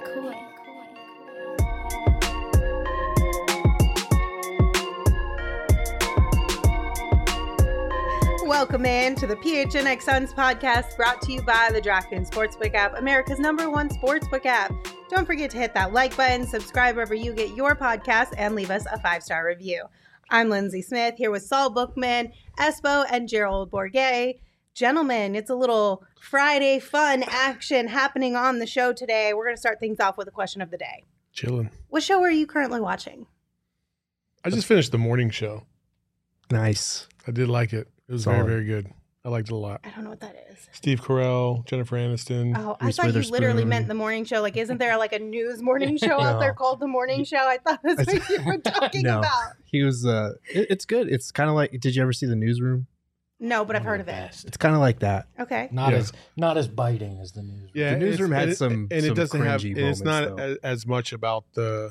Welcome in to the PHNX Suns podcast, brought to you by the DraftKings Sportsbook app, America's #1 sportsbook app. Don't forget to hit that like button, subscribe wherever you get your podcast, and leave us a 5-star review. I'm Lindsay Smith, here with Saul Bookman, Espo, and Gerald Bourget. Gentlemen, it's a little Friday fun action happening on the show today. We're going to start things off with a question of the day. Chilling. What show are you currently watching? I just finished the morning show. Nice. I did like it. It was Solid. very, very good. I liked it a lot. I don't know what that is. Steve Carell, Jennifer Aniston. Oh, I Reese thought you literally Witherspoon. meant the morning show. Like, isn't there like a news morning show out there called The Morning Show? I thought that's what you were talking No. about. He was, it's good. It's kind of like, did you ever see The Newsroom? No, but I've One heard the of it. best. It's kind of like that. Okay. Not as biting as the news. Yeah, The newsroom it's- had and some and it doesn't have. cringy And it's moments, not as much about the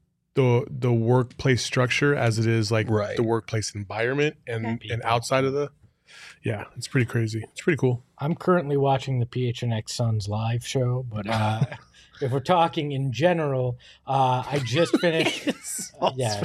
workplace structure as it is like Right. the workplace environment and Okay. outside of the. Yeah, it's pretty crazy. It's pretty cool. I'm currently watching the PHNX Suns live show, but if we're talking in general, I just finished. Yeah.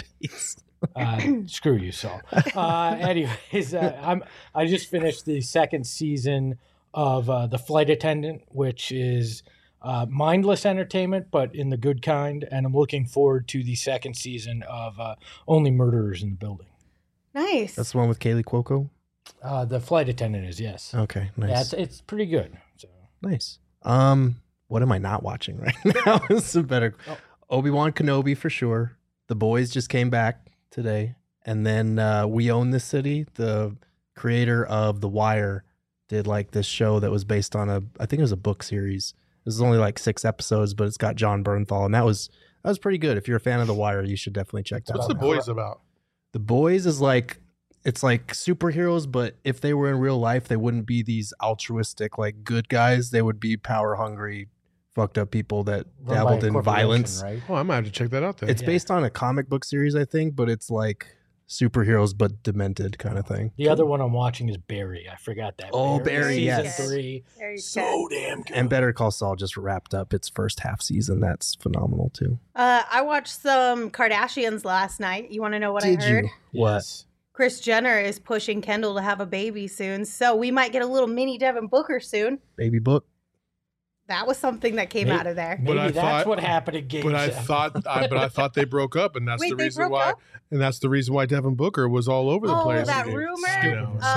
Screw you, Saul. Anyways, I just finished the second season of The Flight Attendant, which is mindless entertainment, but in the good kind. And I'm looking forward to the second season of Only Murderers in the Building. Nice. That's the one with Kaylee Cuoco? The Flight Attendant is, yes. Okay, nice. Yeah, it's pretty good. So. Nice. What am I not watching right now? It's a better Obi-Wan Kenobi for sure. The Boys just came back today. And then We Own This City, the creator of The Wire, did like this show that was based on I think it was a book series. This is only like 6 episodes, but it's got John Bernthal, and that was pretty good. If you're a fan of The Wire, you should definitely check that What's out. the boys about? The Boys is like, it's like superheroes, but if they were in real life, they wouldn't be these altruistic, like good guys. They would be power hungry, fucked up people that Run by dabbled a in corporation, violence. right? Oh, I might have to check that out then. It's Yeah. based on a comic book series, I think, but it's like superheroes, but demented kind of thing. The other one I'm watching is Barry. I forgot that. Oh, Barry, Season yes. 3. Very So good. damn good. And Better Call Saul just wrapped up its first half season. That's phenomenal too. I watched some Kardashians last night. You want to know what I heard? What? Yes. Kris Jenner is pushing Kendall to have a baby soon, so we might get a little mini Devin Booker soon. Baby book? That was something that came Maybe- out of there. Maybe But I that's thought- what happened in Game But I 7. thought they broke up, and that's Wait, the they reason broke why. up? And that's the reason why Devin Booker was all over the Oh, place. that Dude. rumor? I know, so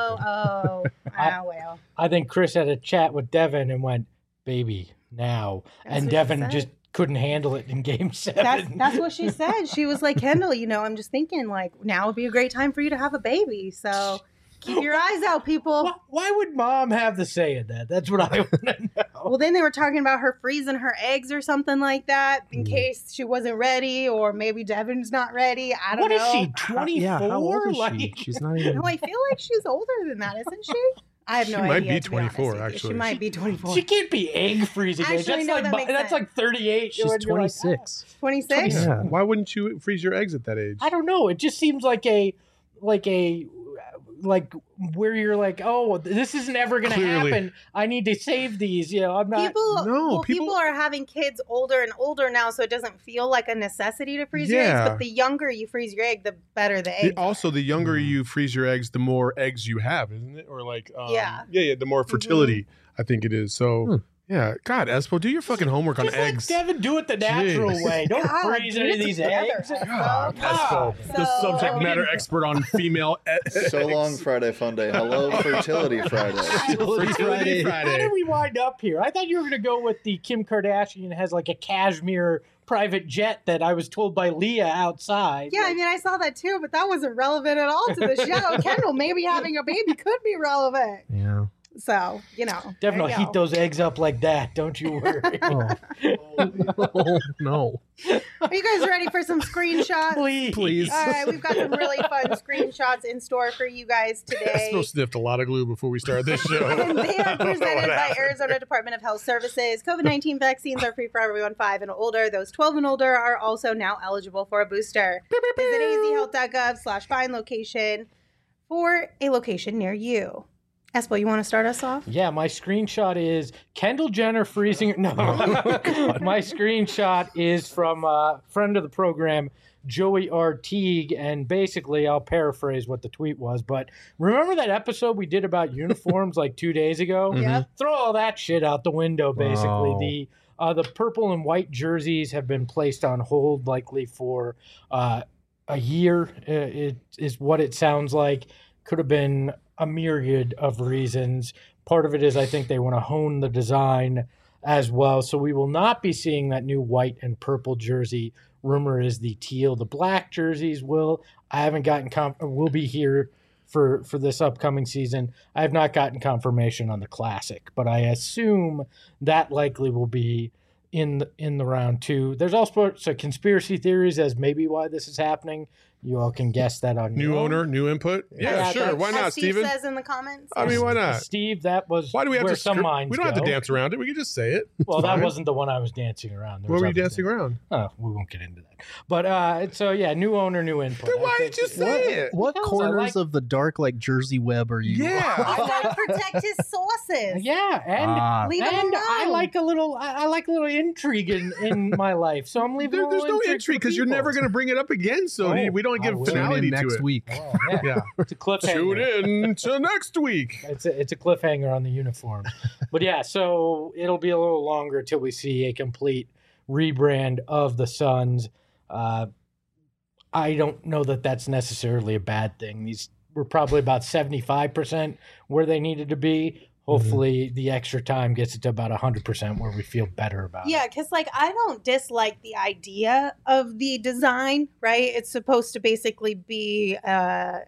Oh, stupid. well. I think Chris had a chat with Devin and went, "Baby, now," That's and what she Devin said. just couldn't handle it in Game 7. That's what she said. She was like, Kendall, I'm just thinking like now would be a great time for you to have a baby. So keep your eyes out, people. Why would Mom have the say in that? That's what I want to know. Well, then they were talking about her freezing her eggs or something like that in case she wasn't ready, or maybe Devin's not ready. I don't What know. is she? 24? Yeah, how old is she? Like, She's not even. No, I feel like she's older than that, isn't she? I have no She idea. might be to honest 24, with you. actually. She might be 24. she can't be egg freezing. age. Actually, That's no, like that makes that's sense. like 38. She's You're like, 26. 26? Yeah. Why wouldn't you freeze your eggs at that age? I don't know. It just seems like where you're like, oh, this isn't ever going to Clearly. happen. I need to save these. I'm not. People are having kids older and older now, so it doesn't feel like a necessity to freeze your Yeah. eggs. But the younger you freeze your egg, the better the eggs. Also, the younger you freeze your eggs, the more eggs you have, isn't it? Or like, Yeah. the more fertility I think it is. So, yeah, God, Espo, do your fucking homework on Just eggs. let Devin do it the natural Jeez. way. Don't God, freeze get any it of these together, eggs. Espo. God, Espo, the So- subject matter expert on female So long, Friday Fun Day. Hello, Fertility Friday. Fertility How did Friday. we wind up here? I thought you were going to go with the Kim Kardashian has like a cashmere private jet that I was told by Leah outside. Yeah, I mean, I saw that too, but that wasn't relevant at all to the show. Kendall, maybe having a baby could be relevant. Yeah. So, Devin there will you heat go. those eggs up like that. Don't you worry. Oh, no. Are you guys ready for some screenshots? Please. All right, we've got some really fun screenshots in store for you guys today. Espo sniffed a lot of glue before we started this show. And they are I don't know presented what by happened. Arizona Department of Health Services. COVID-19 vaccines are free for everyone 5 and older. Those 12 and older are also now eligible for a booster. Visit azhealth.gov/find location for a location near you. Espo, you want to start us off? Yeah, my screenshot is Kendall Jenner freezing. No, my screenshot is from a friend of the program, Joey R. Teague, and basically I'll paraphrase what the tweet was, but remember that episode we did about uniforms like 2 days ago? Yep. Throw all that shit out the window, basically. Wow. The purple and white jerseys have been placed on hold likely for a year, it is what it sounds like. Could have been a myriad of reasons. Part of it is I think they want to hone the design as well. So we will not be seeing that new white and purple jersey. Rumor is the teal, the black jerseys will. I haven't gotten will be here for this upcoming season. I have not gotten confirmation on the classic, but I assume that likely will be in the round 2. There's also conspiracy theories as maybe why this is happening. You all can guess that on New your own. owner, new input. Yeah, sure. Why not, As Steve Steven? says in the comments. I mean, why not? Steve, that was Why do we have where to some script- minds We don't have to go. dance around it. We can just say it. Well, It's that fine. wasn't the one I was dancing around. There Where was were you other dancing things. around? Oh, we won't get into that. But so yeah, new owner, new input. Then why I did you think- say it? What Because I corners like- of the dark like Jersey web are you? Yeah. He's got to protect his sources. Yeah, and Leave him and alone. I like a little intrigue in my life, so I'm leaving. There's no intrigue because you're never going to bring it up again, so Oh, we don't I give will. Tune finality in to next it. week. Oh, yeah. Yeah. It's a cliffhanger. Tune in to next week. It's a cliffhanger on the uniform. But yeah, so it'll be a little longer till we see a complete rebrand of the Suns. I don't know that that's necessarily a bad thing. These were probably about 75% where they needed to be. Hopefully the extra time gets it to about 100% where we feel better about it. Yeah, because like I don't dislike the idea of the design, right? It's supposed to basically be a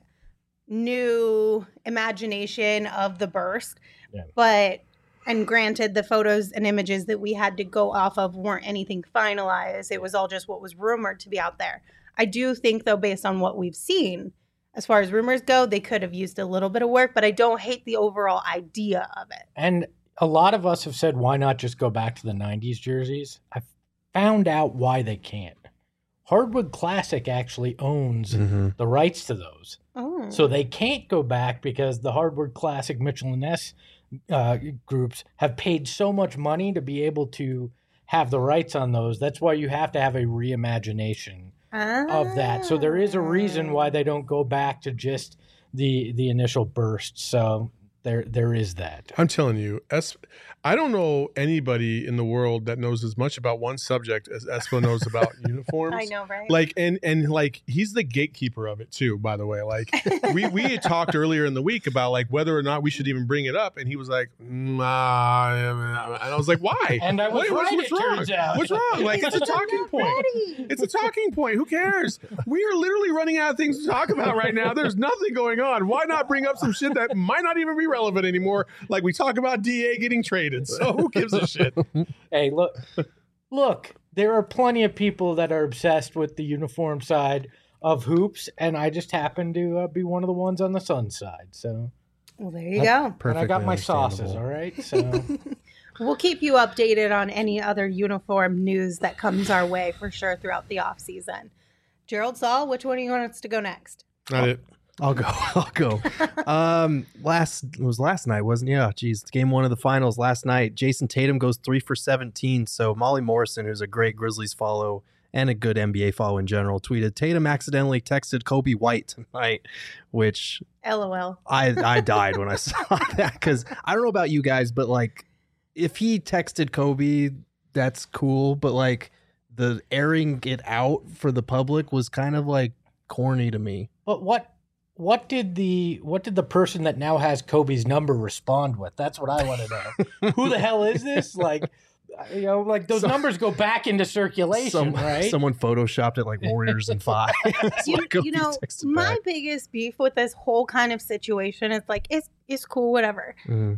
new imagination of the burst. Yeah. But, and granted, the photos and images that we had to go off of weren't anything finalized. It was all just what was rumored to be out there. I do think, though, based on what we've seen, as far as rumors go, they could have used a little bit of work, but I don't hate the overall idea of it. And a lot of us have said, why not just go back to the 90s jerseys? I found out why they can't. Hardwood Classic actually owns the rights to those. Oh. So they can't go back because the Hardwood Classic Mitchell & Ness groups have paid so much money to be able to have the rights on those. That's why you have to have a reimagination of that. So there is a reason why they don't go back to just the initial burst. So there is that. I'm telling you, I don't know anybody in the world that knows as much about one subject as Espo knows about uniforms. I know, right? Like and like he's the gatekeeper of it too, by the way. Like we had talked earlier in the week about like whether or not we should even bring it up, and he was like, nah. And I was like, why? And I was right, what's it wrong? turns out. What's wrong? Like it's a talking point. It's a talking point. Who cares? We are literally running out of things to talk about right now. There's nothing going on. Why not bring up some shit that might not even be relevant anymore? Like we talk about DA getting traded. So who gives a shit? Hey, look, there are plenty of people that are obsessed with the uniform side of hoops, and I just happen to be one of the ones on the Suns side. So, Well, there you go. and I got my Perfectly sauces, understandable. all right? So, We'll keep you updated on any other uniform news that comes our way for sure throughout the off season. Gerald Saul, which one do you want us to go next? Not it. I'll go. It was last night, wasn't it? Yeah, geez. Game 1 of the finals last night. Jason Tatum goes 3 for 17. So Molly Morrison, who's a great Grizzlies follow and a good NBA follow in general, tweeted, Tatum accidentally texted Kobe White tonight, which LOL. I died when I saw that because I don't know about you guys, but like if he texted Kobe, that's cool. But like the airing it out for the public was kind of like corny to me. but what did the person that now has Kobe's number respond with? That's what I want to know. Who the hell is this? Like, you know, like those numbers go back into circulation, right? Someone photoshopped it like Warriors in 5. That's You, what Kobe you know, texted my back. biggest beef with this whole kind of situation is like, it's cool, whatever. Mhm.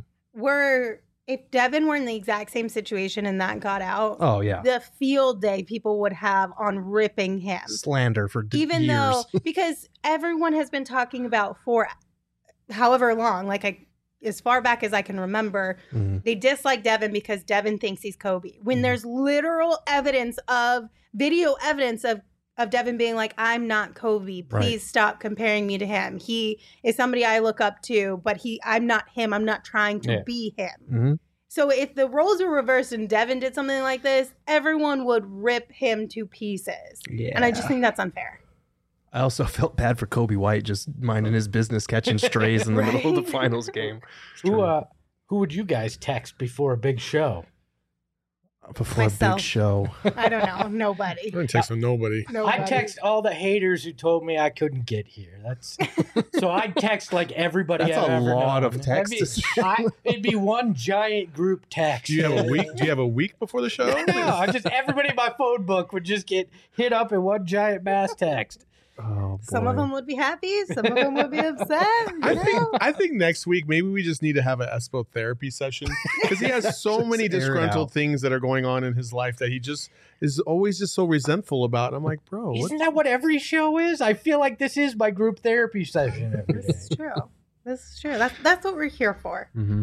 If Devin were in the exact same situation and that got out, Oh yeah, the field day people would have on ripping him. slander for Even years. though, because everyone has been talking about for however long, like as far back as I can remember, Mhm. they dislike Devin because Devin thinks he's Kobe. When Mhm. there's literal evidence of video evidence of of Devin being like, I'm not Kobe. Please stop comparing me to him. He is somebody I look up to, but I'm not him. I'm not trying to be him. Mm-hmm. So if the roles were reversed and Devin did something like this, everyone would rip him to pieces. Yeah. And I just think that's unfair. I also felt bad for Kobe White just minding his business, catching strays in the middle of the finals game. Who would you guys text before a big show? Before Myself. a big show. I don't know. Nobody. I didn't text nobody. I text all the haters who told me I couldn't get here. So I'd text like everybody. That's I've a ever lot known. of text. It'd be one giant group text. Do you have a week? Do you have a week before the show? No, everybody in my phone book would just get hit up in one giant mass text. Oh, Some of them would be happy. Some of them would be upset. I think next week maybe we just need to have an Espo therapy session because he has so many disgruntled things that are going on in his life that he just is always just so resentful about. And I'm like, bro, Isn't that what every show is? I feel like this is my group therapy session every day. This is true. This is true. That's what we're here for. Mm-hmm.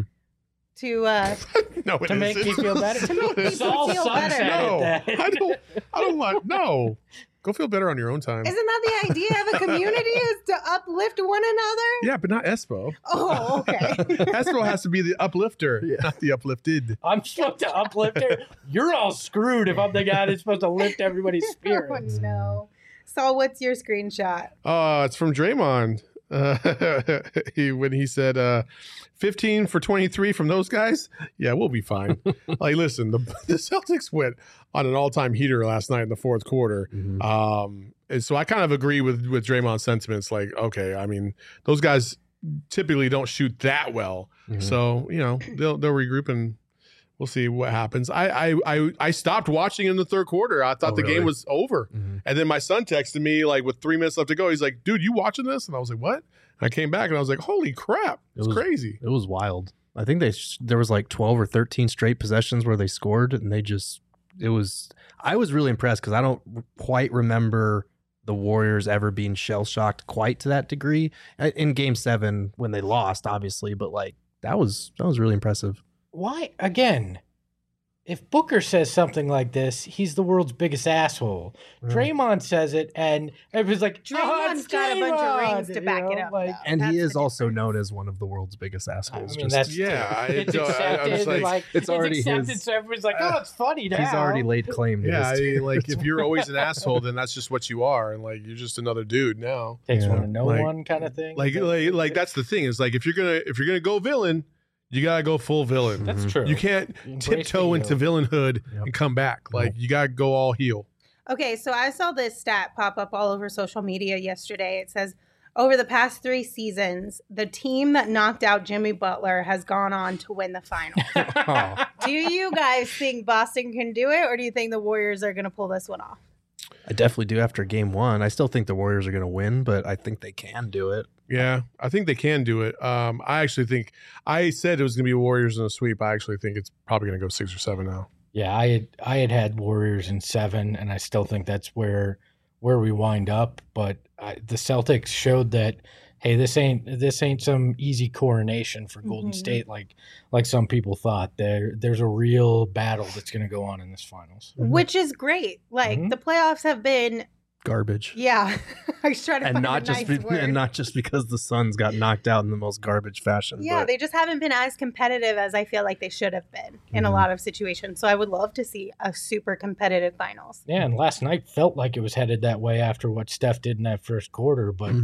no, it To make isn't. me feel better. To make people Saul feel Sunset better. No, at that. I don't want. No, go feel better on your own time. Isn't that the idea of a community is to uplift one another? Yeah, but not Espo. Oh, okay. Espo has to be the uplifter, not the uplifted. I'm supposed to uplift her. You're all screwed if I'm the guy that's supposed to lift everybody's Oh, spirits. no. Saul, what's your screenshot? It's from Draymond. When he said 15 for 23 from those guys, yeah, we'll be fine. Like, listen, the Celtics went on an all-time heater last night in the fourth quarter. Mm-hmm. And so I kind of agree with Draymond's sentiments. Like, okay, I mean, those guys typically don't shoot that well. Mm-hmm. So, they'll regroup and we'll see what happens. I stopped watching in the third quarter. I thought the game was over. Mm-hmm. And then my son texted me like with 3 minutes left to go. He's like, dude, you watching this? And I was like, what? And I came back and I was like, holy crap. It's crazy. It was wild. I think there was like 12 or 13 straight possessions where they scored and I was really impressed because I don't quite remember the Warriors ever being shell-shocked quite to that degree in game 7 when they lost, obviously, but like that was really impressive. Why, again, if Booker says something like this, he's the world's biggest asshole. Draymond says it, and everybody's like, Draymond's got a bunch of rings to back it up. Though. And That's he is the also difference. known as one of the world's biggest assholes. I mean, that's it's accepted. it's already accepted, his. So everybody's like, oh, it's funny now. He's already laid claim to Yeah, this. like if you're always an asshole, then that's just what you are, and like you're just another dude now. Takes one to know Like- one kind of thing. Like that's the thing is like if you're gonna go villain, you gotta go full villain. That's true. You can't Embrace tiptoe the into villainhood and come back. Like you gotta go all heel. Okay, so I saw this stat pop up all over social media yesterday. It says, over the past 3 seasons, the team that knocked out Jimmy Butler has gone on to win the finals. Oh. Do you guys think Boston can do it, or do you think the Warriors are going to pull this one off? I definitely do after game 1. I still think the Warriors are going to win, but I think they can do it. Yeah, I think they can do it. I actually think I said it was gonna be Warriors in a sweep. I actually think it's probably gonna go 6 or 7 now. Yeah, I had Warriors in 7, and I still think that's where we wind up. But the Celtics showed that, hey, this ain't some easy coronation for Golden State like some people thought. There's a real battle that's going to go on in this finals. Which is great. Like the playoffs have been Garbage. Yeah, I was trying to And find not a just nice word. and not just because the Suns got knocked out in the most garbage fashion. Yeah, but they just haven't been as competitive as I feel like they should have been in a lot of situations. So I would love to see a super competitive finals. Yeah, and last night felt like it was headed that way after what Steph did in that first quarter. But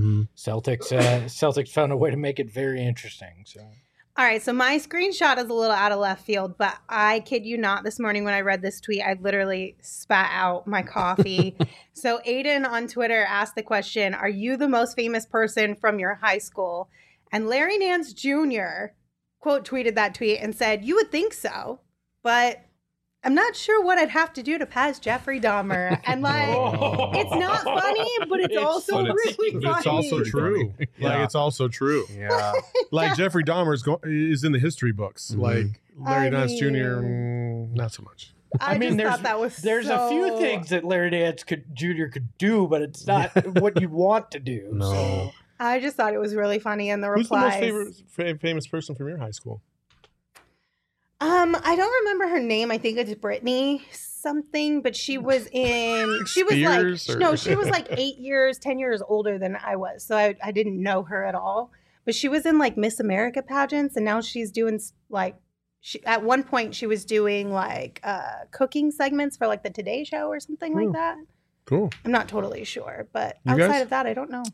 Celtics found a way to make it very interesting. So. All right, so my screenshot is a little out of left field, but I kid you not, this morning when I read this tweet, I literally spat out my coffee. So Aiden on Twitter asked the question, are you the most famous person from your high school? And Larry Nance Jr. quote tweeted that tweet and said, you would think so, but I'm not sure what I'd have to do to pass Jeffrey Dahmer. And like, it's not funny, but it's also really funny. It's also true. Like it's also true. yeah. Like Jeffrey Dahmer is in the history books. Like Larry I Nance mean- Jr. Not so much. I mean, thought that was there's a few things that Larry Nance Jr. could do, but it's not what you want to do. No. So. I just thought it was really funny in the Who's the most replies. famous person from your high school? I don't remember her name. I think it's Brittany something, but she was in. She was Spears, like or- no, she was like 10 years older than I was, so I didn't know her at all. But she was in like Miss America pageants, and now she's doing like. At one point she was doing like cooking segments for like the Today Show or something like that. Cool. I'm not totally sure, but You outside guys? of that, I don't know.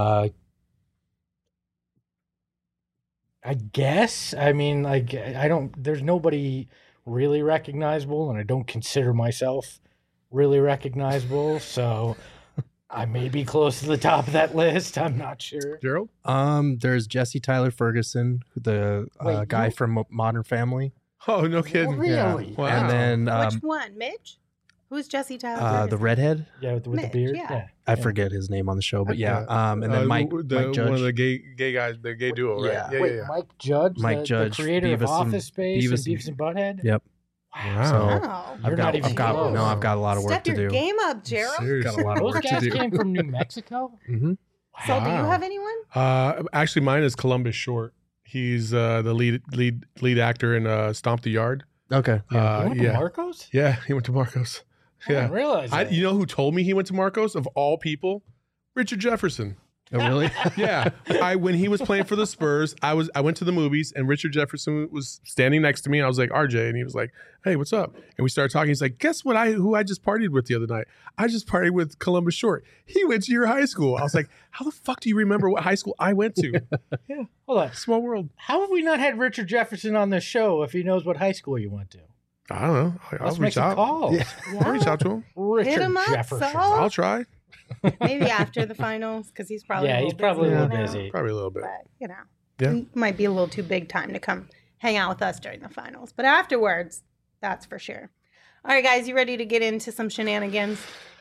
I guess. I mean, like, I don't. There's nobody really recognizable, and I don't consider myself really recognizable. So I may be close to the top of that list. I'm not sure. Gerald? There's Jesse Tyler Ferguson, the Wait, guy you- from Modern Family. Oh, no kidding. Really? Wow. And then Which one, Mitch? Who's Jesse Tyler? the redhead. Yeah, with the Mitch, beard. yeah. I forget his name on the show, but yeah. Okay. And then Mike Judge. One of the gay guys, the gay duo, right? Yeah. Wait, Mike Judge, Mike the Judge, creator of Beavis and- Office Space and Beavis and- Beavis and Butthead. Yep. Wow. So Wow. You're not even close. I've got a lot of work Step to your do. game up, Gerald. Seriously. Got a lot of Those work to guys do. came from New Mexico. Mm-hmm. So, do you Wow. have anyone? Actually, mine is Columbus Short. He's the lead actor in Stomp the Yard. Okay. You went to yeah. Marcos? Yeah, he went to Marcos. I didn't realize that. You know who told me he went to Marcos of all people? Richard Jefferson. Oh, really? Yeah, when he was playing for the Spurs, I went to the movies and Richard Jefferson was standing next to me. I was like, RJ, and he was like, hey, what's up? And we started talking. He's like, guess what? Who I just partied with the other night? I just partied with Columbus Short. He went to your high school. I was like, how the fuck do you remember what high school I went to? Yeah, Hold on. small world. How have we not had Richard Jefferson on the show if he knows what high school you went to? I don't know. I'll Let's make reach some out. calls. Yeah. I'll reach out to him. Richard Hit him up, Jefferson. Saul. I'll try. Maybe after the finals, because he's probably Yeah, a he's little probably a busy little now. busy. Probably a little bit. But Yeah. he might be a little too big time to come hang out with us during the finals. But afterwards, that's for sure. All right, guys, you ready to get into some shenanigans?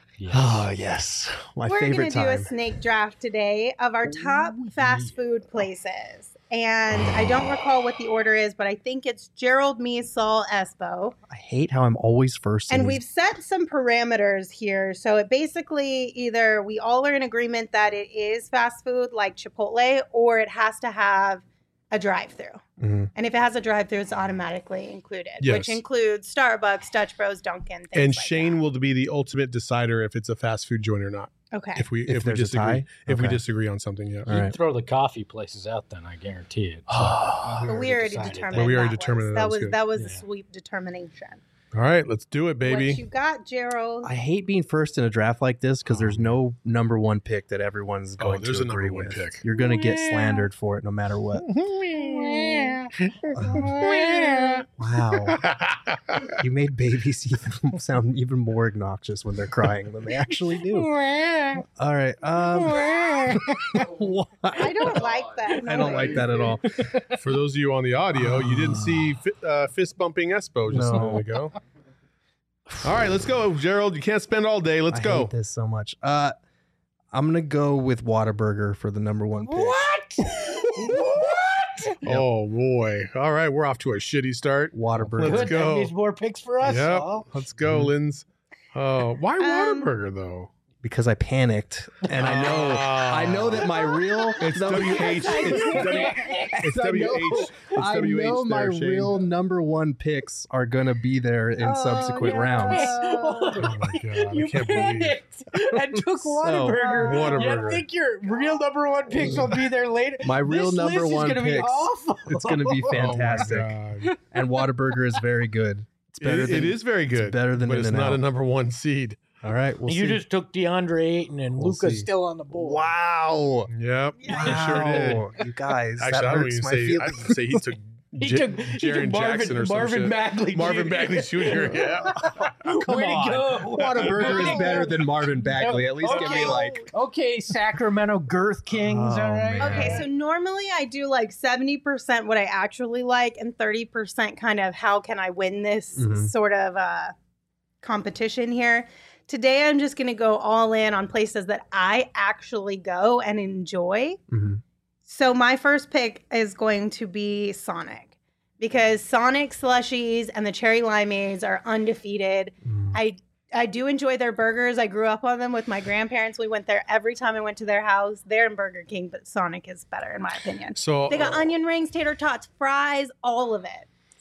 Oh, yes. My We're favorite gonna do a time. snake draft today of our top fast food places. And I don't recall what the order is, but I think it's Gerald, me, Saul, Espo. I hate how I'm always first. in And these- we've set some parameters here. So it basically either we all are in agreement that it is fast food like Chipotle, or it has to have a drive-through. Mhm. And if it has a drive-through, it's automatically included, Yes. which includes Starbucks, Dutch Bros, Dunkin', things And like Shane that. will be the ultimate decider if it's a fast food joint or not. Okay. If we If there's a disagree, tie? if we Okay. disagree on something, yeah. All You'd right. throw the coffee places out, then I guarantee it. But we already decided determined. that. Well, we already that determined was, that that was was good. that was a Yeah. sweep determination. All right, let's do it, What baby. you got, Gerald? I hate being first in a draft like this because there's no number one pick that everyone's going there's to a number agree one with. pick. You're going to get slandered for it no matter what. Wow. You made babies even sound even more obnoxious when they're crying than they actually do. All right. What? I don't like that. I don't like that at all. For those of you on the audio, you didn't see fist bumping Espo just a No. moment ago. All right, let's go, Gerald. You can't spend all day. Let's I go. hate this so much. I'm gonna go with Whataburger for the number one pick. Oh boy! All right, we're off to a shitty start. Whataburger. Let's Good. go. That means more picks for us. Yep. Saul. Let's go, Linz. Oh, why Whataburger though? Because I panicked and I know that my real It's no, WH. It's I know- WH. It's I know WH my there, Shane. real number one picks are gonna be there in subsequent no. rounds. Oh my god! I You can't believe. panicked and took So, Whataburger. Whataburger. You think your real number one picks will be there later? My real This number list one is gonna be picks. awful. It's gonna be Oh my fantastic. God. And Whataburger is very good. It's better It than is very good. better than but it's not In-N-Out. a number one seed. All right, we'll You see. just took DeAndre Ayton and We'll Luca's see. still on the board. Wow. Yep, Yeah. he sure did. Wow. You guys, Actually, that I don't hurts even my say. I'd feelings. say he took. He took Jaren Marvin, Jackson or some Marvin shit. Bagley. Marvin Jr. Bagley Jr. Yeah. Come Way to on. go. Whataburger is better than Marvin Bagley. At least give me like. Okay, Sacramento Girth Kings. Oh, all right. man. Okay, so normally I do like 70% what I actually like and 30% kind of how can I win this Mhm. sort of competition here. Today I'm just going to go all in on places that I actually go and enjoy. Mhm. So my first pick is going to be Sonic because Sonic slushies and the cherry limeades are undefeated. Mm. I do enjoy their burgers. I grew up on them with my grandparents. We went there every time I went to their house. They're in Burger King, but Sonic is better in my opinion. So They got onion rings, tater tots, fries, all of it.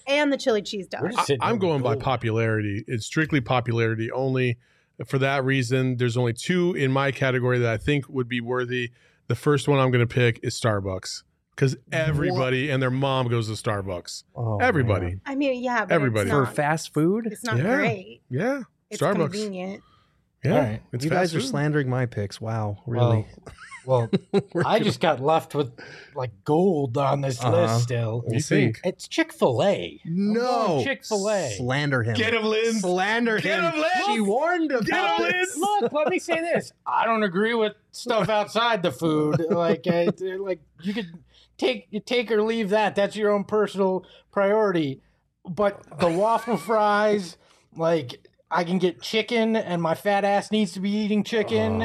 and the chili cheese We're dog. just sitting I'm there going by gold. popularity. It's strictly popularity only. For that reason, there's only two in my category that I think would be worthy. The first one I'm going to pick is Starbucks because everybody and their mom goes to Starbucks. Oh, everybody. man. I mean, yeah, but Everybody. it's For not, fast food? it's not Yeah. great. Yeah. It's Starbucks. convenient. Yeah. All right. It's You guys fast are food. slandering my picks. Wow, really? Well, I just got left with like gold on this list still. You think? It's Chick-fil-A. No. Chick-fil-A. Slander him. Get him, Lynn. Slander Get him. him, Lynn. She warned about Get him, this. Look, let me say this. I don't agree with stuff outside the food. Like you could take or leave that. That's your own personal priority. But the waffle fries, like I can get chicken, and my fat ass needs to be eating chicken.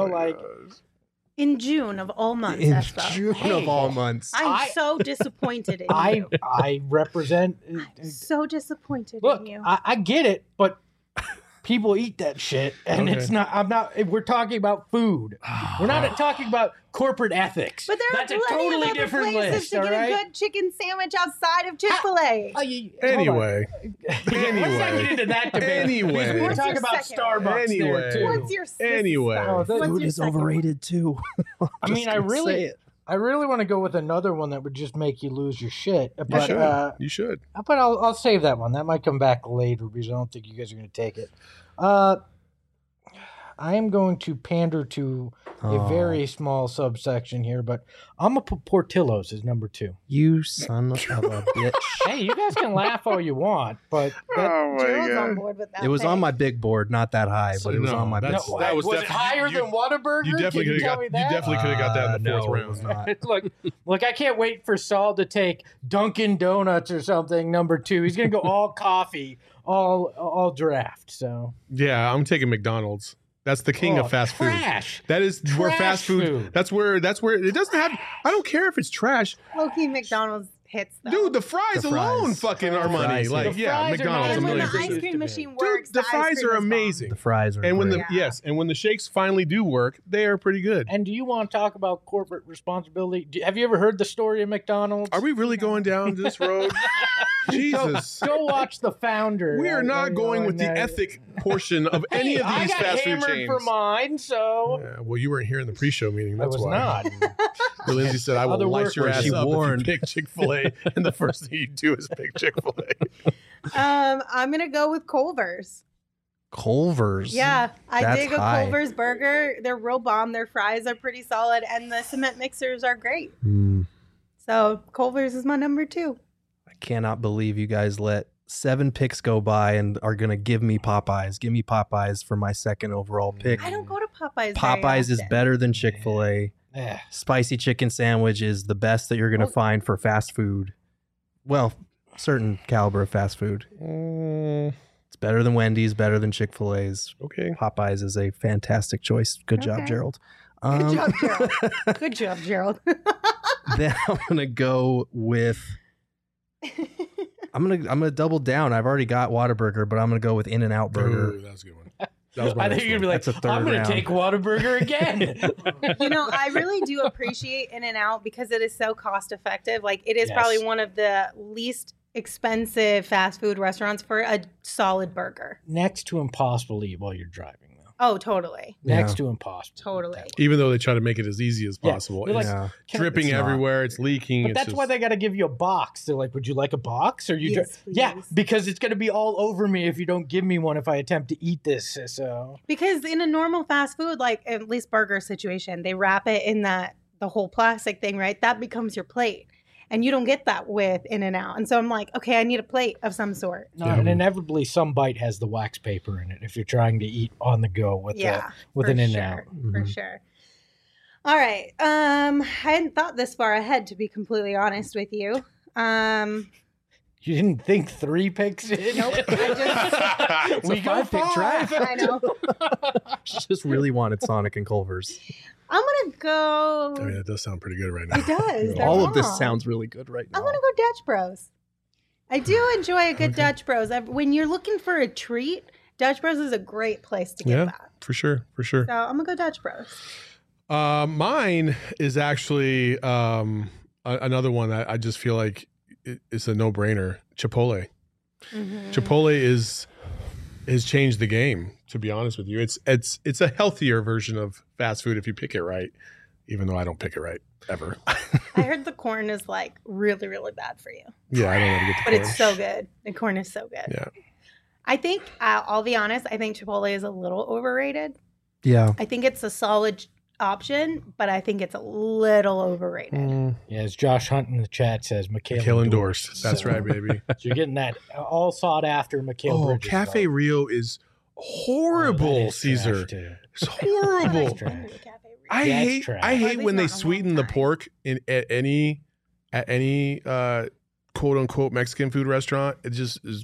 In June of all months, In Espo. June of all months. I'm so disappointed in you. I represent. So disappointed Look, in you. I get it, but people eat that shit, and Okay. it's not. I'm not. We're talking about food. We're not talking about corporate ethics. But there That's are a plenty totally of other different places list. to All get a right. good chicken sandwich outside of Chick-fil-A. Anyway. Let's not get into that debate. Anyway. Because we're What's talking your about second? Starbucks Anyway. there too. What's your Anyway. What's Food your is second one? overrated too. I mean, I really want to go with another one that would just make you lose your shit. You But should. You should. but I'll save that one. That might come back later because I don't think you guys are going to take it. I am going to pander to a very small subsection here, but I'm going to put Portillo's as number 2. You son of a bitch. Hey, you guys can laugh all you want, but Gerald's on board with that. It was on pick. my big board, not that high, but it was No, on my big that's- board. that was it definitely- higher you- than Whataburger? You definitely Can could tell have me got. You that? definitely could have got that in the No, fourth it was round. not. Look, I can't wait for Saul to take Dunkin' Donuts or something, number 2. He's going to go all coffee, all draft. So Yeah, I'm taking McDonald's. That's the king of fast food. trash. That is where Trash fast food, food. That's where it doesn't have. I don't care if it's trash, Low-key McDonald's hits, though. dude. The fries The alone fries. fucking are The money. fries, Like The yeah, fries are McDonald's a not and when million the as percent. ice cream machine Dude, works, the ice fries cream are is bomb. amazing. The fries are And when great. and when the shakes finally do work, they are pretty good. And do you want to talk about corporate responsibility? Have you ever heard the story of McDonald's? Are we really going down this road? Jesus. Go watch The Founder. We are not going with the and, ethic portion of Hey, any of I these got fast food hammered chains. for mine, so Yeah, well, you weren't here in the pre-show meeting. I That's was why. not. Well, Lindsay said, "I will Other light your workers. ass She up warned. if you pick Chick-fil-A." And the first thing you do is pick Chick-fil-A. I'm gonna go with Culver's. Culver's. Yeah, I That's dig a high. Culver's burger. They're real bomb. Their fries are pretty solid, and the cement mixers are great. Hmm. So Culver's is my number 2. I cannot believe you guys let 7 picks go by and are going to give me Popeyes. Give me Popeyes for my second overall pick. I don't go to Popeyes. very Popeyes is often. better than Chick-fil-A. Eh. Spicy chicken sandwich is the best that you're going to find for fast food. Well, certain caliber of fast food. It's better than Wendy's, better than Chick-fil-A's. Okay. Popeyes is a fantastic choice. Good job, Okay. Gerald. Good job, Gerald. Good job, Gerald. Then I'm gonna go with. I'm gonna double down. I've already got Whataburger, but I'm gonna go with In-N-Out Burger. Ooh, that was a good one. That was my I next think you're one. gonna be like, That's a third I'm gonna round. take Whataburger again. You know, I really do appreciate In-N-Out because it is so cost effective. Like, it is Yes. probably one of the least expensive fast food restaurants for a solid burger. Next to impossible to eat while you're driving, though. Oh, totally. Next Yeah. to impossible. Totally. Even though they try to make it as easy as Yeah. possible, You're it's like, Yeah. dripping It's not. everywhere. It's leaking. But it's that's just, why they got to give you a box. They're like, "Would you like a box?" Or you, Yes, yeah, please. because it's going to be all over me if you don't give me one if I attempt to eat this. So Because in a normal fast food, like at least burger situation, they wrap it in the whole plastic thing, right? That becomes your plate. And you don't get that with In-N-Out. And so I'm like, okay, I need a plate of some sort. no, Yeah. and inevitably some bite has the wax paper in it if you're trying to eat on the go with Yeah. with for an sure, In-N-Out. For Mhm. sure. All right. I hadn't thought this far ahead, to be completely honest with you. You didn't think 3 picks in? Nope. I we got 5-pick draft. I know. Just really wanted Sonic and Culver's. I'm gonna go. I mean, that does sound pretty good right now. It does. They're All of this bomb. sounds really good right now. I'm gonna go Dutch Bros. I do enjoy a good Dutch Bros. When you're looking for a treat, Dutch Bros is a great place to get Yeah, that. for sure, for sure. So I'm gonna go Dutch Bros. Mine is actually another one that I just feel like it's a no-brainer. Chipotle. Mhm. Chipotle has changed the game. To be honest with you, it's a healthier version of fast food if you pick it right. Even though I don't pick it right ever. I heard the corn is like really, really bad for you, Yeah, I don't know how to get the but corn. it's so good. The corn is so good. Yeah. I think I'll be honest. I think Chipotle is a little overrated. Yeah. I think it's a solid option, but I think it's a little overrated. Yeah, as Josh Hunt in the chat says, Mikhail Kill endorsed. endorsed. That's So- right, baby. So you're getting that all sought after Mikhail Oh, Bridges. Cafe though. Rio is Oh, horrible, that is Caesar. trash, too. It's horrible. trash. I That's hate trash. I Or at hate least when not they in a long sweeten the time. pork at any quote unquote Mexican food restaurant. It just is.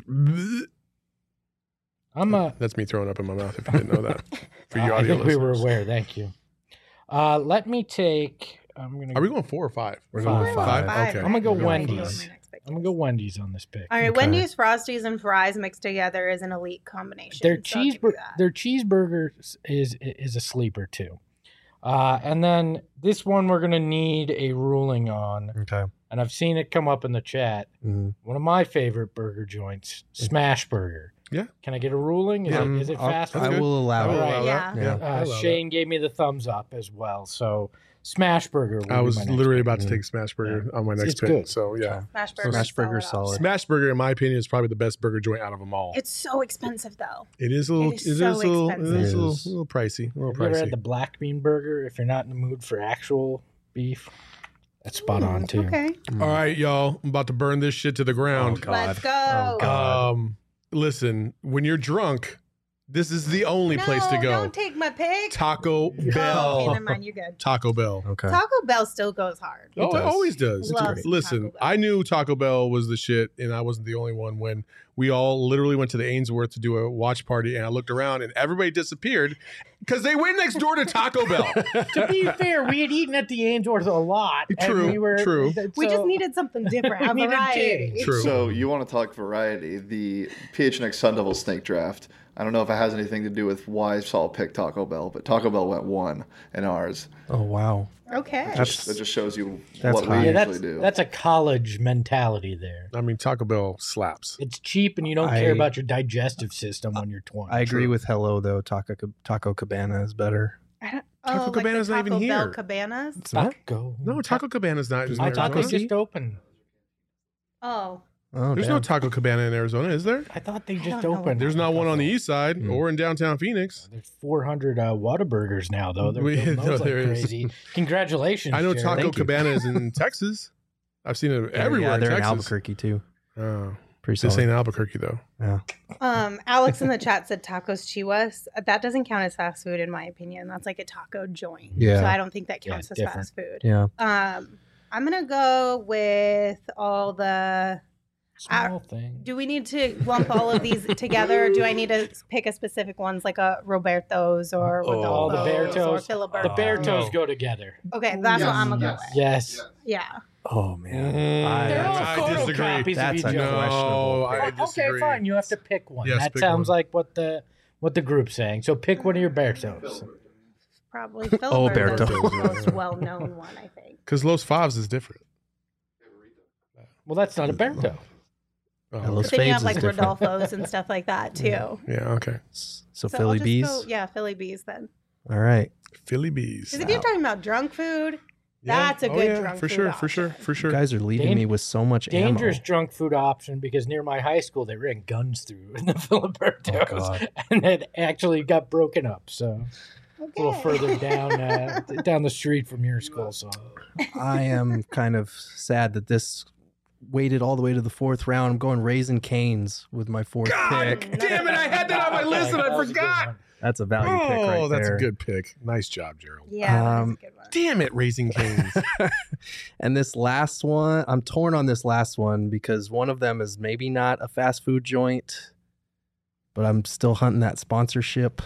That's me throwing up in my mouth. If you didn't know that, for you I audio think we listeners. were aware. Thank you. Let me take. I'm gonna. Are we going 4 or 5? We're going five. Okay. I'm gonna go I have no idea Wendy's. what my next pick I'm gonna is. go Wendy's on this pick. All right, Okay. Wendy's, Frosties, and fries mixed together is an elite combination. Their so I'll give you that. their cheeseburger is a sleeper too. And then this one we're gonna need a ruling on, Okay. and I've seen it come up in the chat. Mm. One of my favorite burger joints, Smash Burger. Yeah. Can I get a ruling? Is it fast I food? will allow I will it. allow that. Yeah. I love Shane gave me the thumbs up as well. So Smash Burger. will I be was my next literally pick. about to take Smash Burger on my next It's pick. good. So yeah, Smash Burger. Smash Burger's solid. Smash Burger, in my opinion, is probably the best burger joint out of them all. It's so expensive though. It is a little, It is so expensive. a It is. little pricey. A little Have you ever pricey. had the black bean burger? If you're not in the mood for actual beef, that's spot on too. Okay, All right, y'all. I'm about to burn this shit to the ground. God. let's go. Oh, God. Listen, when you're drunk, this is the only place to No, go. Don't take my pick. Taco Oh, okay, Bell. never mind. You're good. Taco Bell. Okay. Taco Bell still goes hard. Oh, it does. always does. Loves Listen, Taco Bell. I knew Taco Bell was the shit, and I wasn't the only one when we all literally went to the Ainsworth to do a watch party, and I looked around, and everybody disappeared because they went next door to Taco Bell. To be fair, we had eaten at the Ainsworth a lot. and True, we were, true. We just needed something different. A We needed variety. change. True. So you want to talk variety? The PHNX Sun Devil Snake Draft. I don't know if it has anything to do with why Saul picked Taco Bell, but Taco Bell went 1 in ours. Oh wow. Okay. That just shows you That's what high. we Yeah, usually do. that's a college mentality there. I mean, Taco Bell slaps. It's cheap and you don't I- care about your digestive system when you're 20. I agree True. with Hello though. Taco Cabana is better. Taco Cabana's not even Taco Bell here. Cabanas. It's not. Taco. No, Taco Cabana's not. There's in I no thought they Arizona. just opened. Oh, Oh, There's damn. no Taco Cabana in Arizona, is there? I thought they I just don't know what opened. There's not one on the east side Mm. or in downtown Phoenix. There's 400 Whataburgers now, though. They're We- building no, those like there is. crazy. Congratulations, I know Jared. Taco Thank you. Cabana is in Texas. I've seen it everywhere Yeah, in they're in Texas. Albuquerque too. Oh, Pretty this solid. ain't Albuquerque though. Alex in the chat said tacos chihuas. That doesn't count as fast food in my opinion. That's like a taco joint. Yeah. So I don't think that Yeah, counts as different. fast food. Yeah. I'm gonna go with all the. Small thing. Do we need to lump all of these together? Or do I need to pick a specific ones like a Roberto's or Oh, the Rodolfo's or Bertos. Filiberto? The Bear Toes no. go together. Okay, that's what I'm gonna go with. Yes. Yeah. Oh man. They're all I photocopies disagree. of That's each a other. No, questionable I pick. disagree. Okay, fine. You have to pick one. Yes, that pick sounds one. like what the group's saying. So pick one of your Bertos. Probably Filiberto's Berto. the most well-known one, I think. Because Los Favs is different. Well, that's not a Berto. Oh, Yeah, okay. Los But then you Fades have is like different. Rodolfo's and stuff like that too. Yeah, okay. So I'll Philly just Bees. go- yeah, Philly Bees then. All right. Philly Bees. Because if you're talking about drunk food, Yeah. that's a Oh, good yeah, drunk for food sure, option. for sure, for You sure. guys are leaving Dan- me with so much Dangerous ammo. drunk food option because near my high school they ran guns through in the Filibertos Oh, God. and it actually got broken up. So a little Okay. further down the street from your school. So I am kind of sad that this waited all the way to the 4th round. I'm going Raisin Canes with my 4th God pick. damn it! I had that on my list and That I was a good forgot. one. That's a value pick right Oh, that's there. a good pick. Nice job, Gerald. Yeah, that is a Um, good one. Damn it, Raising Canes. And this last one, I'm torn on this last one because one of them is maybe not a fast food joint, but I'm still hunting that sponsorship.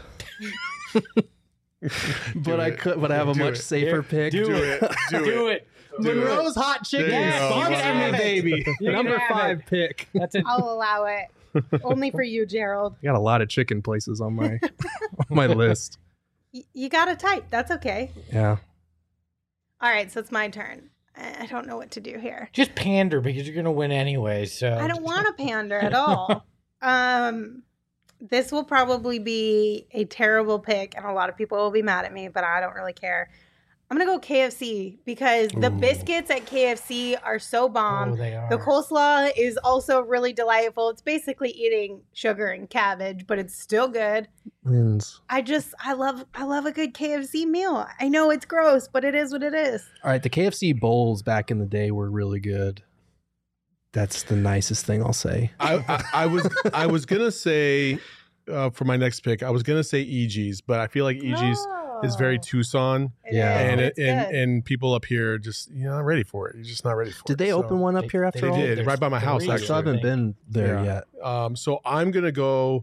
But I have a Do much it. safer pick. Do it. Do it. Do it. Monroe's Hot Chicken There you go. sponsor You can me, have it. baby. You can Number have 5 it. pick. That's it. I'll allow it. Only for you, Gerald. I got a lot of chicken places on my on my list. You got to type. That's okay. Yeah. All right, so it's my turn. I don't know what to do here. Just pander because you're gonna win anyway. So I don't want to pander at all. This will probably be a terrible pick, and a lot of people will be mad at me, but I don't really care. I'm going to go KFC because the biscuits at KFC are so bomb. Oh, they are. The coleslaw is also really delightful. It's basically eating sugar and cabbage, but it's still good. Wins. I love a good KFC meal. I know it's gross, but it is what it is. All right, the KFC bowls back in the day were really good. That's the nicest thing I'll say. I was gonna say for my next pick, I was gonna say EG's, but I feel like EG's is very Tucson, and people up here just not ready for it. You're just not ready for it. Did they open one up here after They all? did right by my house. I Actually, still haven't been there yet. So I'm gonna go.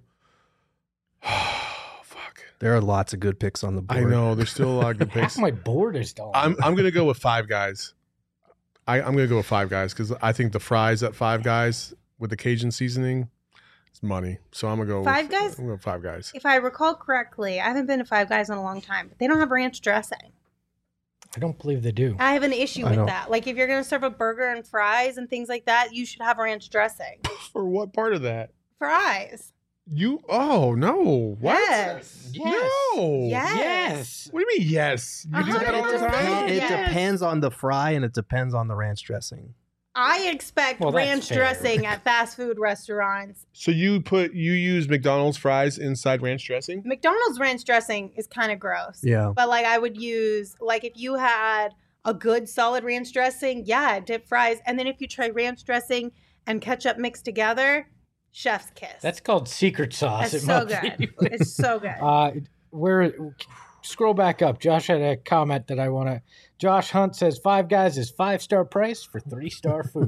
Fuck. There are lots of good picks on the board. I know there's still a lot of good picks. Half my board is done. I'm gonna go with Five Guys. I'm gonna go with Five Guys because I think the fries at Five Guys with the Cajun seasoning is money. So I'm gonna go Five Guys? I'm gonna go Five Guys. If I recall correctly, I haven't been to Five Guys in a long time, but they don't have ranch dressing. I don't believe they do. I have an issue I with don't- that. Like if you're going to serve a burger and fries and things like that, you should have ranch dressing. For what part of that? Fries. Oh no! What? Yes. No. Yes. What do you mean? Yes. You do that all the 100%. time. It Yes. depends on the fry and it depends on the ranch dressing. I expect Well, that's ranch fair. dressing at fast food restaurants. So you use McDonald's fries inside ranch dressing? McDonald's ranch dressing is kind of gross. Yeah. But like I would use, like if you had a good solid ranch dressing, yeah, dip fries. And then if you try ranch dressing and ketchup mixed together, chef's kiss. That's called secret sauce. It's It so must be. good. It's so good. Scroll back up. Josh had a comment that I want to. Josh Hunt says Five Guys is 5-star price for 3-star food.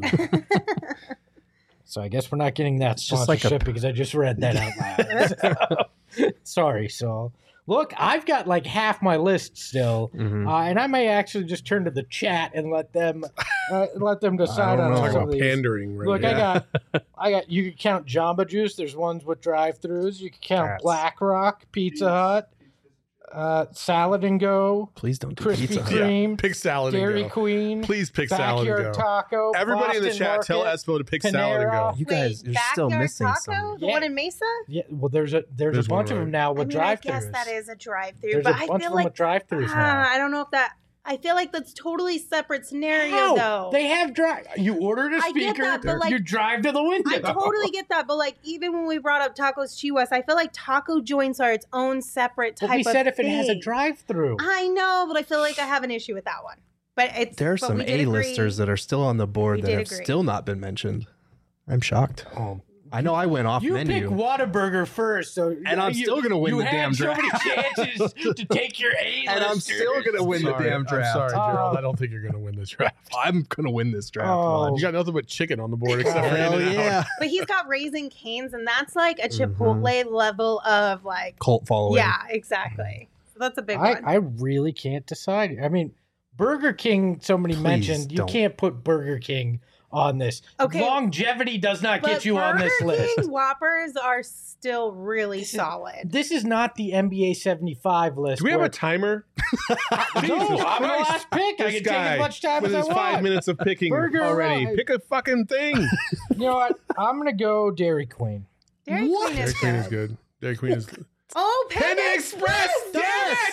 So I guess we're not getting that just like sponsorship a- because I just read that out loud. Sorry, Saul. Look, I've got like half my list still, and I may actually just turn to the chat and let them decide on know. some Talk of about these. pandering, right? Look, now. I got. You can count Jamba Juice. There's ones with drive-throughs. You can count That's- Black Rock, Pizza Hut, Salad and Go, Please don't do Krispy pizza. Kreme, Pick salad Dairy and go. Queen, Please pick salad and Backyard go. Taco. Everybody in the Boston chat, tell Market. Espo to pick salad and Panera. go. You guys, you're still Backyard missing Taco? some. The Yeah. one in Mesa? Yeah, well, there's a There's bunch one, of them right? now I with mean, I drive-throughs. guess that is a drive-through, There's but a I bunch feel of them like with drive-throughs now. I don't know if that. I feel like that's totally separate scenario, How? though. They have drive. You ordered a I get speaker. that, but, like, you drive to the window. I totally get that, but like even when we brought up Tacos Chihuas, I feel like taco joints are its own separate type But we of said if it has a thing. drive-through. I know, but I feel like I have an issue with that one. But it's There are but some we did agree. A-listers that are still on the board We that did have agree. still not been mentioned. I'm shocked. Oh. I know I went off You menu. picked Whataburger first, so And I'm still gonna win you the had damn so many draft. chances to take your A-listers. And I'm still gonna win the Sorry, damn draft. I'm sorry, Gerald. Oh. I don't think you're gonna win this draft. I'm gonna win this draft. Oh. You got nothing but chicken on the board except for Hell In-N-Out. yeah. But he's got Raising Cane's, and that's like a Mhm. Chipotle level of like. Cult following. Yeah, exactly. So that's a big I one. really can't decide. I mean, Burger King, somebody Please mentioned, you don't. can't put Burger King on this. Okay. Longevity does not But get you on this Burger list. King Whoppers are still really This is- solid. This is not the NBA 75 list. Do we have where- a timer? No, I'm the Christ. last pick. I This can take guy as much time with as his I 5 want. minutes of picking Burger already. Alive. Pick a fucking thing. You know what? I'm going to go Dairy Queen. Dairy What? Queen is Dairy Queen is good. good. Dairy Queen is. Oh, Panda Express! Damn Yes!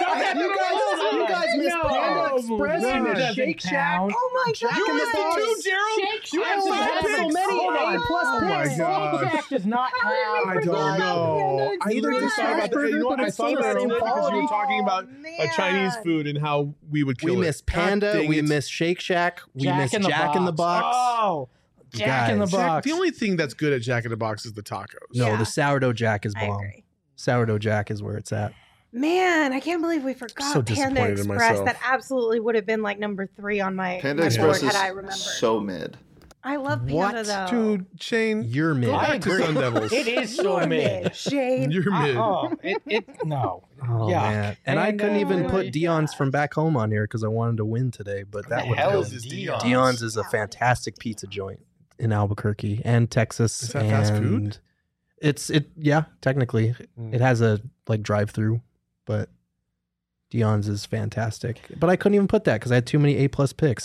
You guys missed No. Panda Express No. and It doesn't Shake Shack. count. Oh my Jack god! in the missed it Box. too, Gerald. Shake You Shack have does five have picks. so many Hold on. A-plus Oh my picks. god. Shake Shack does not have. I don't know. I Neither literally does thought about that. Smashburger, You know what? but I it's thought still about the it same because you were quality. talking about Chinese food and how we would kill We it. missed God Panda. dang We it. missed Shake Shack. We Jack missed in the Jack in the Box. Oh, Jack in the Guys. Box. The only thing that's good at Jack in the Box is the tacos. No, Yeah. the sourdough Jack is I bomb. agree. Sourdough Jack is where it's at. Man, I can't believe we forgot So Panda disappointed in Express. myself. That absolutely would have been like number 3 on my, Panda my Express board had I is remembered. so mid. I love Panda What? though. Dude, Shane, You're mid. go back to Sun Devils. It is so You're mid. Shane. You're mid. No. Oh Yuck. man! And I couldn't even put really- Dion's from back home on here because I wanted to win today, but that The would hell help. is is Dion's? Dion's is a fantastic pizza joint in Albuquerque and Texas. Is that fast food? and yeah, technically Mm. it has a like drive-through, but Dion's is fantastic. But I couldn't even put that because I had too many A+ picks.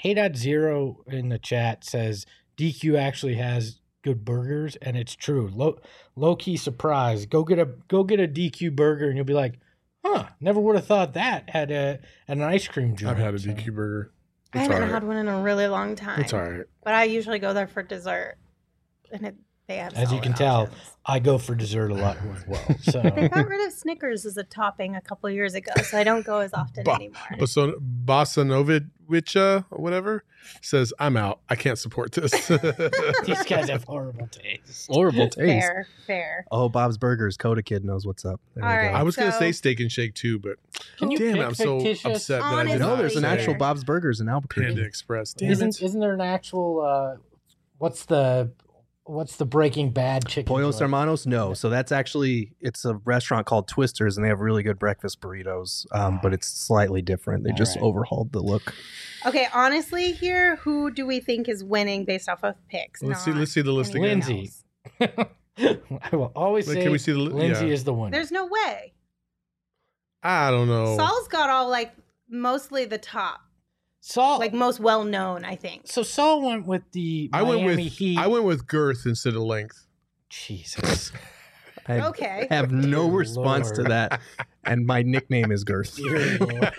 Hey.0 in the chat says DQ actually has good burgers, and it's true. Low key surprise. Go get a DQ burger, and you'll be like, huh, never would have thought that had an ice cream joint. I've had a DQ burger. I haven't had one in a really long time. It's all right. But I usually go there for dessert. And they have As you can solid tell, options. I go for dessert a lot as well. So They got rid of Snickers as a topping a couple of years ago, so I don't go as often anymore. Bosanovic, or whatever, says, I'm out. I can't support this. these guys have horrible taste. Horrible taste. Fair. Oh, Bob's Burgers. Coda Kid knows what's up. There All we go. right. I was going to So- say Steak and Shake too, but Can you damn, pick I'm so fictitious- upset that I did Honestly, No, not there's an say actual Fair. Bob's Burgers in Albuquerque. Panda Express. Damn it. Isn't there an actual what's the Breaking Bad chicken? Pollos joint? Hermanos? No. So that's actually, it's a restaurant called Twisters, and they have really good breakfast burritos, but it's slightly different. They All just right. overhauled the look. Okay, honestly, here, who do we think is winning based off of picks? Let's see not the list again. anyone Lindsay. else? I will always Like, say can we see the Lindsay yeah. is the winner. There's no way. I don't know. Saul's got all like mostly the top, Saul, like most well known, I think. so Saul went with the Miami Heat. I went with girth instead of length. Jesus. I Okay. have no Dear response to Lord. that, and my nickname is Girth. Dear Lord.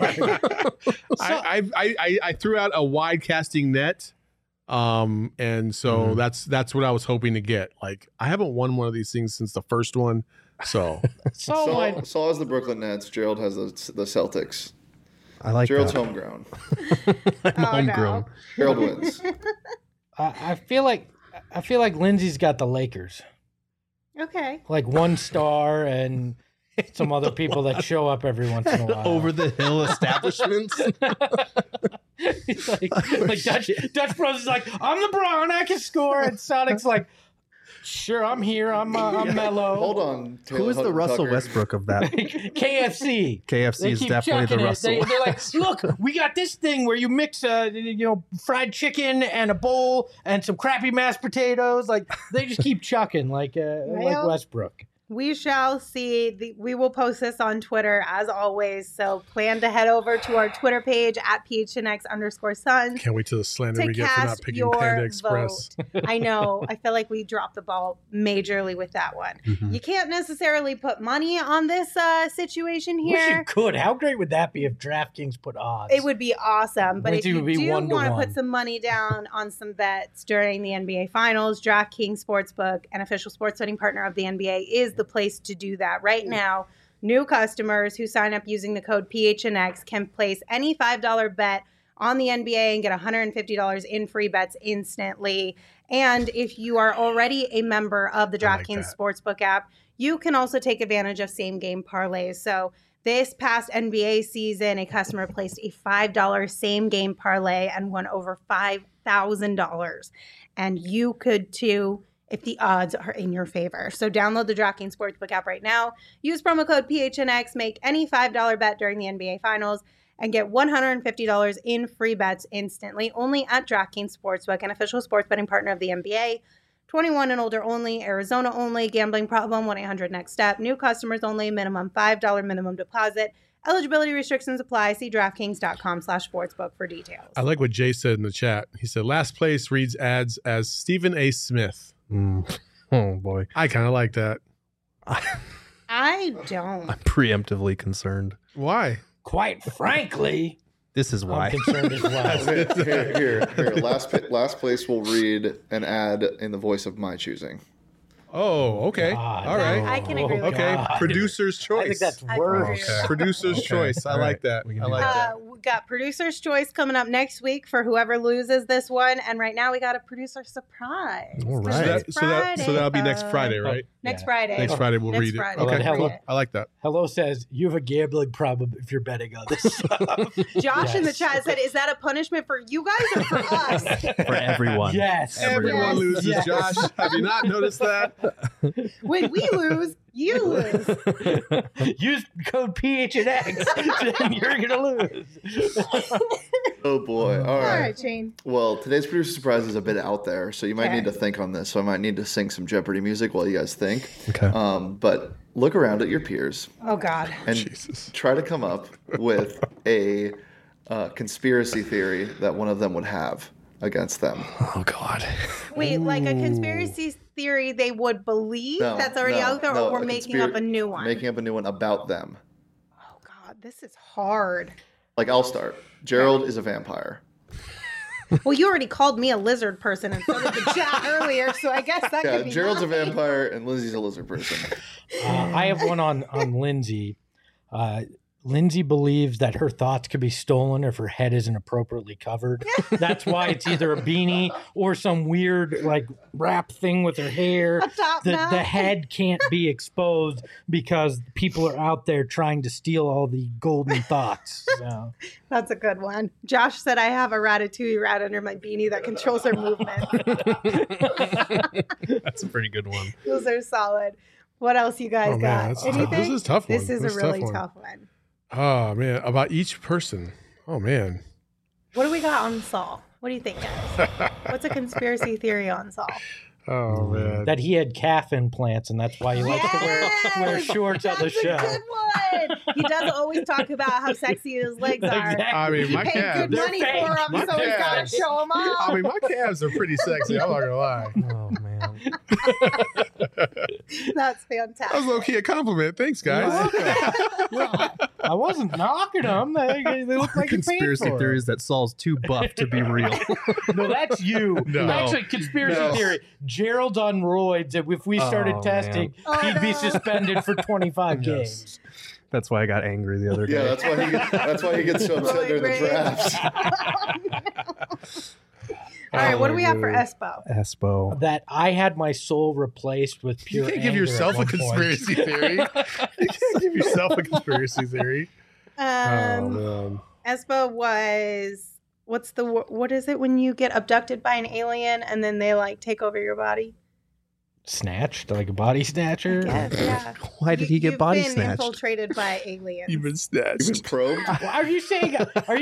I threw out a wide casting net, and so that's what I was hoping to get. Like I haven't won one of these things since the first one, so Saul went. Saul has the Brooklyn Nets. Gerald has the Celtics. I like Gerald's that. home ground. I'm Oh, homegrown. no. Gerald wins. I feel like Lindsay's got the Lakers. Okay. Like one star and some other people that show up every once in a while. Over the hill establishments. He's like Dutch Bros is like, I'm LeBron, I can score, and Sonic's like, sure, I'm here, I'm mellow. Hold on. Who is the Russell Tucker. Westbrook of that? KFC. KFC They is keep definitely the chucking it. Russell. They're like, look, we got this thing where you mix, fried chicken and a bowl and some crappy mashed potatoes. Like they just keep chucking, like Well, Westbrook. We shall see. We will post this on Twitter as always. So plan to head over to our Twitter page at PHNX_Suns. can't wait till the slander To we get for not cast picking your Panda Express. I know. I feel like we dropped the ball majorly with that one. Mhm. You can't necessarily put money on this situation Wish you here. could. How great would that be if DraftKings put odds? It would be awesome. But if Lindsay you would be do 1 to want to 1. put some money down on some bets during the NBA Finals, DraftKings Sportsbook, an official sports betting partner of the NBA, is the place to do that. Right now, new customers who sign up using the code PHNX can place any $5 bet on the NBA and get $150 in free bets instantly. And if you are already a member of the I like DraftKings that. Sportsbook app, you can also take advantage of same game parlays. So this past NBA season, a customer placed a $5 same game parlay and won over $5,000. And you could too if the odds are in your favor. So download the DraftKings Sportsbook app right now. Use promo code PHNX, make any $5 bet during the NBA Finals, and get $150 in free bets instantly. Only at DraftKings Sportsbook, an official sports betting partner of the NBA. 21 and older only, Arizona only, gambling problem, 1-800-NEXT-STEP. New customers only, minimum $5 minimum deposit. Eligibility restrictions apply. See DraftKings.com/sportsbook for details. I like what Jay said in the chat. He said last place reads ads as Stephen A. Smith. Oh boy, I kind of like that. I don't. I'm preemptively concerned. Why? Quite frankly, This is I'm why. concerned as well. Here. Last place will read an ad in the voice of my choosing. Oh, okay. God. All right. I can agree with Okay. God. Producer's choice. I think that's I worse. agree. Okay. Producer's Okay. choice. I All like right. that. We can I do like that. that. We got producer's choice coming up next week for whoever loses this one, and right now we got a producer surprise. All 'Cause right. it's So that'll be next folks. Friday, right? Next Yeah. Friday. Next Friday we'll Next read Friday. it. Okay, Hello. cool. I like that. Hello says you have a gambling problem if you're betting on this stuff. Josh in the Yes. chat said, "Is that a punishment for you guys or for us?" For everyone. Yes. Everyone Yes. loses, Yes. Josh. Have you not noticed that? When we lose, you lose. Use code PHNX and you're going to lose. Oh boy. All All right. right, Shane. Well, today's producer surprise is a bit out there, so you might Okay. need to think on this. So I might need to sing some Jeopardy music while you guys think. Okay. But look around at your peers Oh God. and Jesus. try to come up with a conspiracy theory that one of them would have against them. Oh God. Wait, like a conspiracy theory they would believe that's already out there, or we're making up a new one? Making up a new one about them. Oh God, this is hard. Like, I'll start. Gerald is a vampire. Well, you already called me a lizard person and so did the chat earlier, so I guess that could be Gerald's mine. a vampire and Lindsay's a lizard person. I have one on Lindsay. Lindsay believes that her thoughts could be stolen if her head isn't appropriately covered. That's why it's either a beanie or some weird like wrap thing with her hair. A top The knot. head can't be exposed because people are out there trying to steal all the golden thoughts. So. That's a good one. Josh said I have a Ratatouille rat under my beanie that controls her movement. That's a pretty good one. Those are solid. What else you guys Oh, man, got? that's tough. Anything? This is a tough one. This is This a is a really tough one. tough one. Oh man, about each person. Oh man. What do we got on Saul? What do you think, guys? What's a conspiracy theory on Saul? Oh man. That he had calf implants, and that's why he likes to wear shorts on the That's show. a good one. He does always talk about how sexy his legs are. Exactly. I mean, my He paid calves. good money They're for fake. them, My so he's got to calves. show them off. I mean, my calves are pretty sexy. I'm not gonna lie. Oh man. That's That was fantastic. low key a compliment. Thanks, guys. I wasn't knocking them. They look like Conspiracy theories that Saul's too buff to be real. No, that's you. No. Actually, conspiracy No. theory. Gerald's on roids. If we started Oh, testing, man. he'd Oh, be no. suspended for 25 Yes. games. That's why I got angry the other day. Yeah, that's why he gets so upset during the Roid drafts. All right, what do Oh, we have for dude. Espo? Espo. That I had my soul replaced with You pure can't give anger yourself at a one point. conspiracy theory. You can't give yourself a conspiracy theory. Oh man. Espo was what is it when you get abducted by an alien and then they like take over your body? Snatched, like a body snatcher. Yes, yeah. Why did he get body You've been snatched? infiltrated by aliens. You've been You've snatched. been probed. Well, Are you saying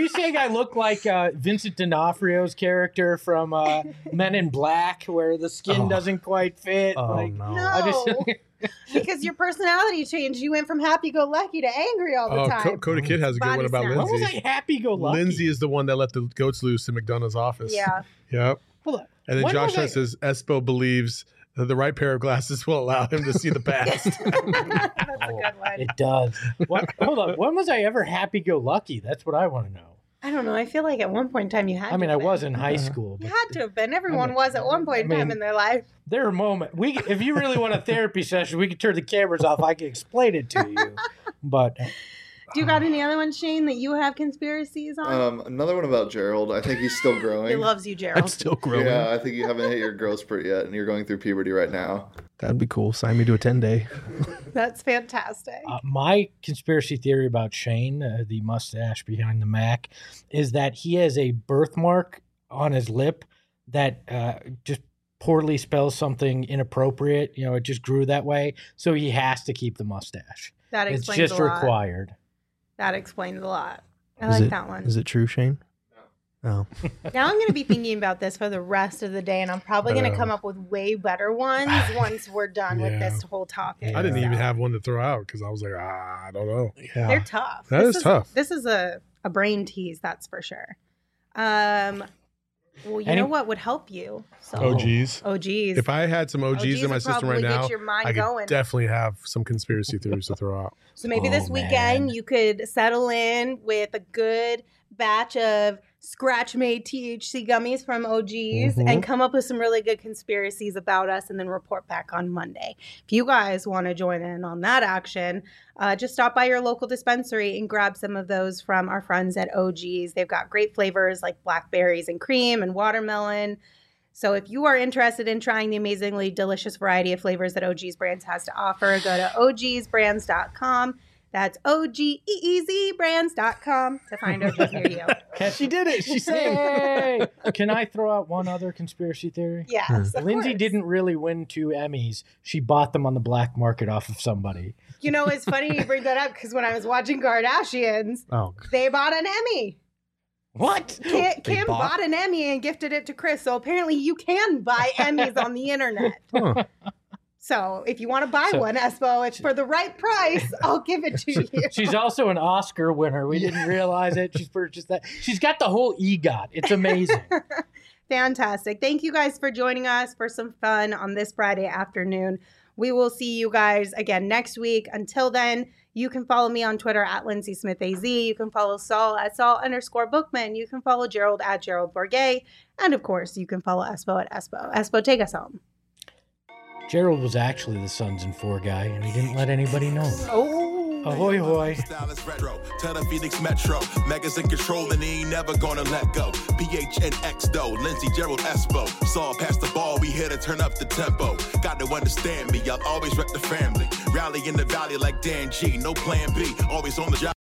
I look like Vincent D'Onofrio's character from Men in Black, where the skin Oh. doesn't quite fit? Oh like, no. No, I just because your personality changed. You went from happy-go-lucky to angry all the Oh, time. Coda Kid has a good Body one about snatch. when was Lindsay. I happy-go-lucky? Lindsay is the one that let the goats loose in McDonough's office. Yeah. Yep. Hold on. And then When Josh was I- says Espo believes that the right pair of glasses will allow him to see the past. That's a good one. It does. Hold on. When was I ever happy-go-lucky? That's what I want to know. I don't know. I feel like at one point in time you had I mean, to I have was been. in high school. You But had to have been. Everyone was at one point in time in their life. there are moments. If you really want a therapy session, we can turn the cameras off. I can explain it to you. But Do you got any other ones, Shane, that you have conspiracies on? Another one about Gerald. I think he's still growing. he loves you, I'm Gerald. still growing. Yeah, I think you haven't hit your growth spurt yet, and you're going through puberty right now. That'd be cool. Sign me to a 10-day. That's fantastic. my conspiracy theory about Shane, the mustache behind the Mac, is that he has a birthmark on his lip that just poorly spells something inappropriate. You know, it just grew that way. So he has to keep the mustache. That It's explains just a lot. required. That explains a lot. I Is like it- that one. Is it true, Shane? Oh. Now I'm going to be thinking about this for the rest of the day, and I'm probably going to come up with way better ones once we're done with Yeah. this whole topic. I didn't even So, have one to throw out because I was like, I don't know. Yeah. They're tough. That This is tough. This is a brain tease, that's for sure. Well, you Any- know what would help you? So, OGs. OGs. If I had some OGs in my would system right probably now, get your mind I could going. definitely have some conspiracy theories to throw out. So maybe this Oh, weekend man. you could settle in with a good batch of scratch-made THC gummies from OGs Mhm. and come up with some really good conspiracies about us and then report back on Monday. If you guys want to join in on that action, just stop by your local dispensary and grab some of those from our friends at OGs. They've got great flavors like blackberries and cream and watermelon. So if you are interested in trying the amazingly delicious variety of flavors that OG's Brands has to offer, go to ogsbrands.com. That's OGEEZbrands.com to find OG's near you. She did it. She sang. Hey! Can I throw out one other conspiracy theory? Yes, of Lindsay course. didn't really win 2 Emmys. She bought them on the black market off of somebody. You know, it's funny you bring that up because when I was watching Kardashians, Oh. they bought an Emmy. What? Kim bought an Emmy and gifted it to Chris. So apparently you can buy Emmys on the internet. Huh. So if you want to buy one, Espo, it's for the right price. I'll give it to you. She's also an Oscar winner. We didn't realize it. She's purchased that. She's got the whole EGOT. It's amazing. Fantastic. Thank you guys for joining us for some fun on this Friday afternoon. We will see you guys again next week. Until then, you can follow me on Twitter at Lindsay Smith AZ. You can follow Saul at Saul_Bookman. You can follow Gerald at Gerald Bourget. And of course, you can follow Espo at Espo. Espo, take us home. Gerald was actually the Sons and Four guy, and he didn't let anybody know. Oh. Ahoy, hoy. Tell the Phoenix Metro. Megas in control and he ain't never gonna let go. PHNX though, Lindsay, Gerald, Espo. Saw past the ball, we here to turn up the tempo. Got to understand me, I'll always rep the family. Rally in the valley like Dan G, no plan B. Always on the job.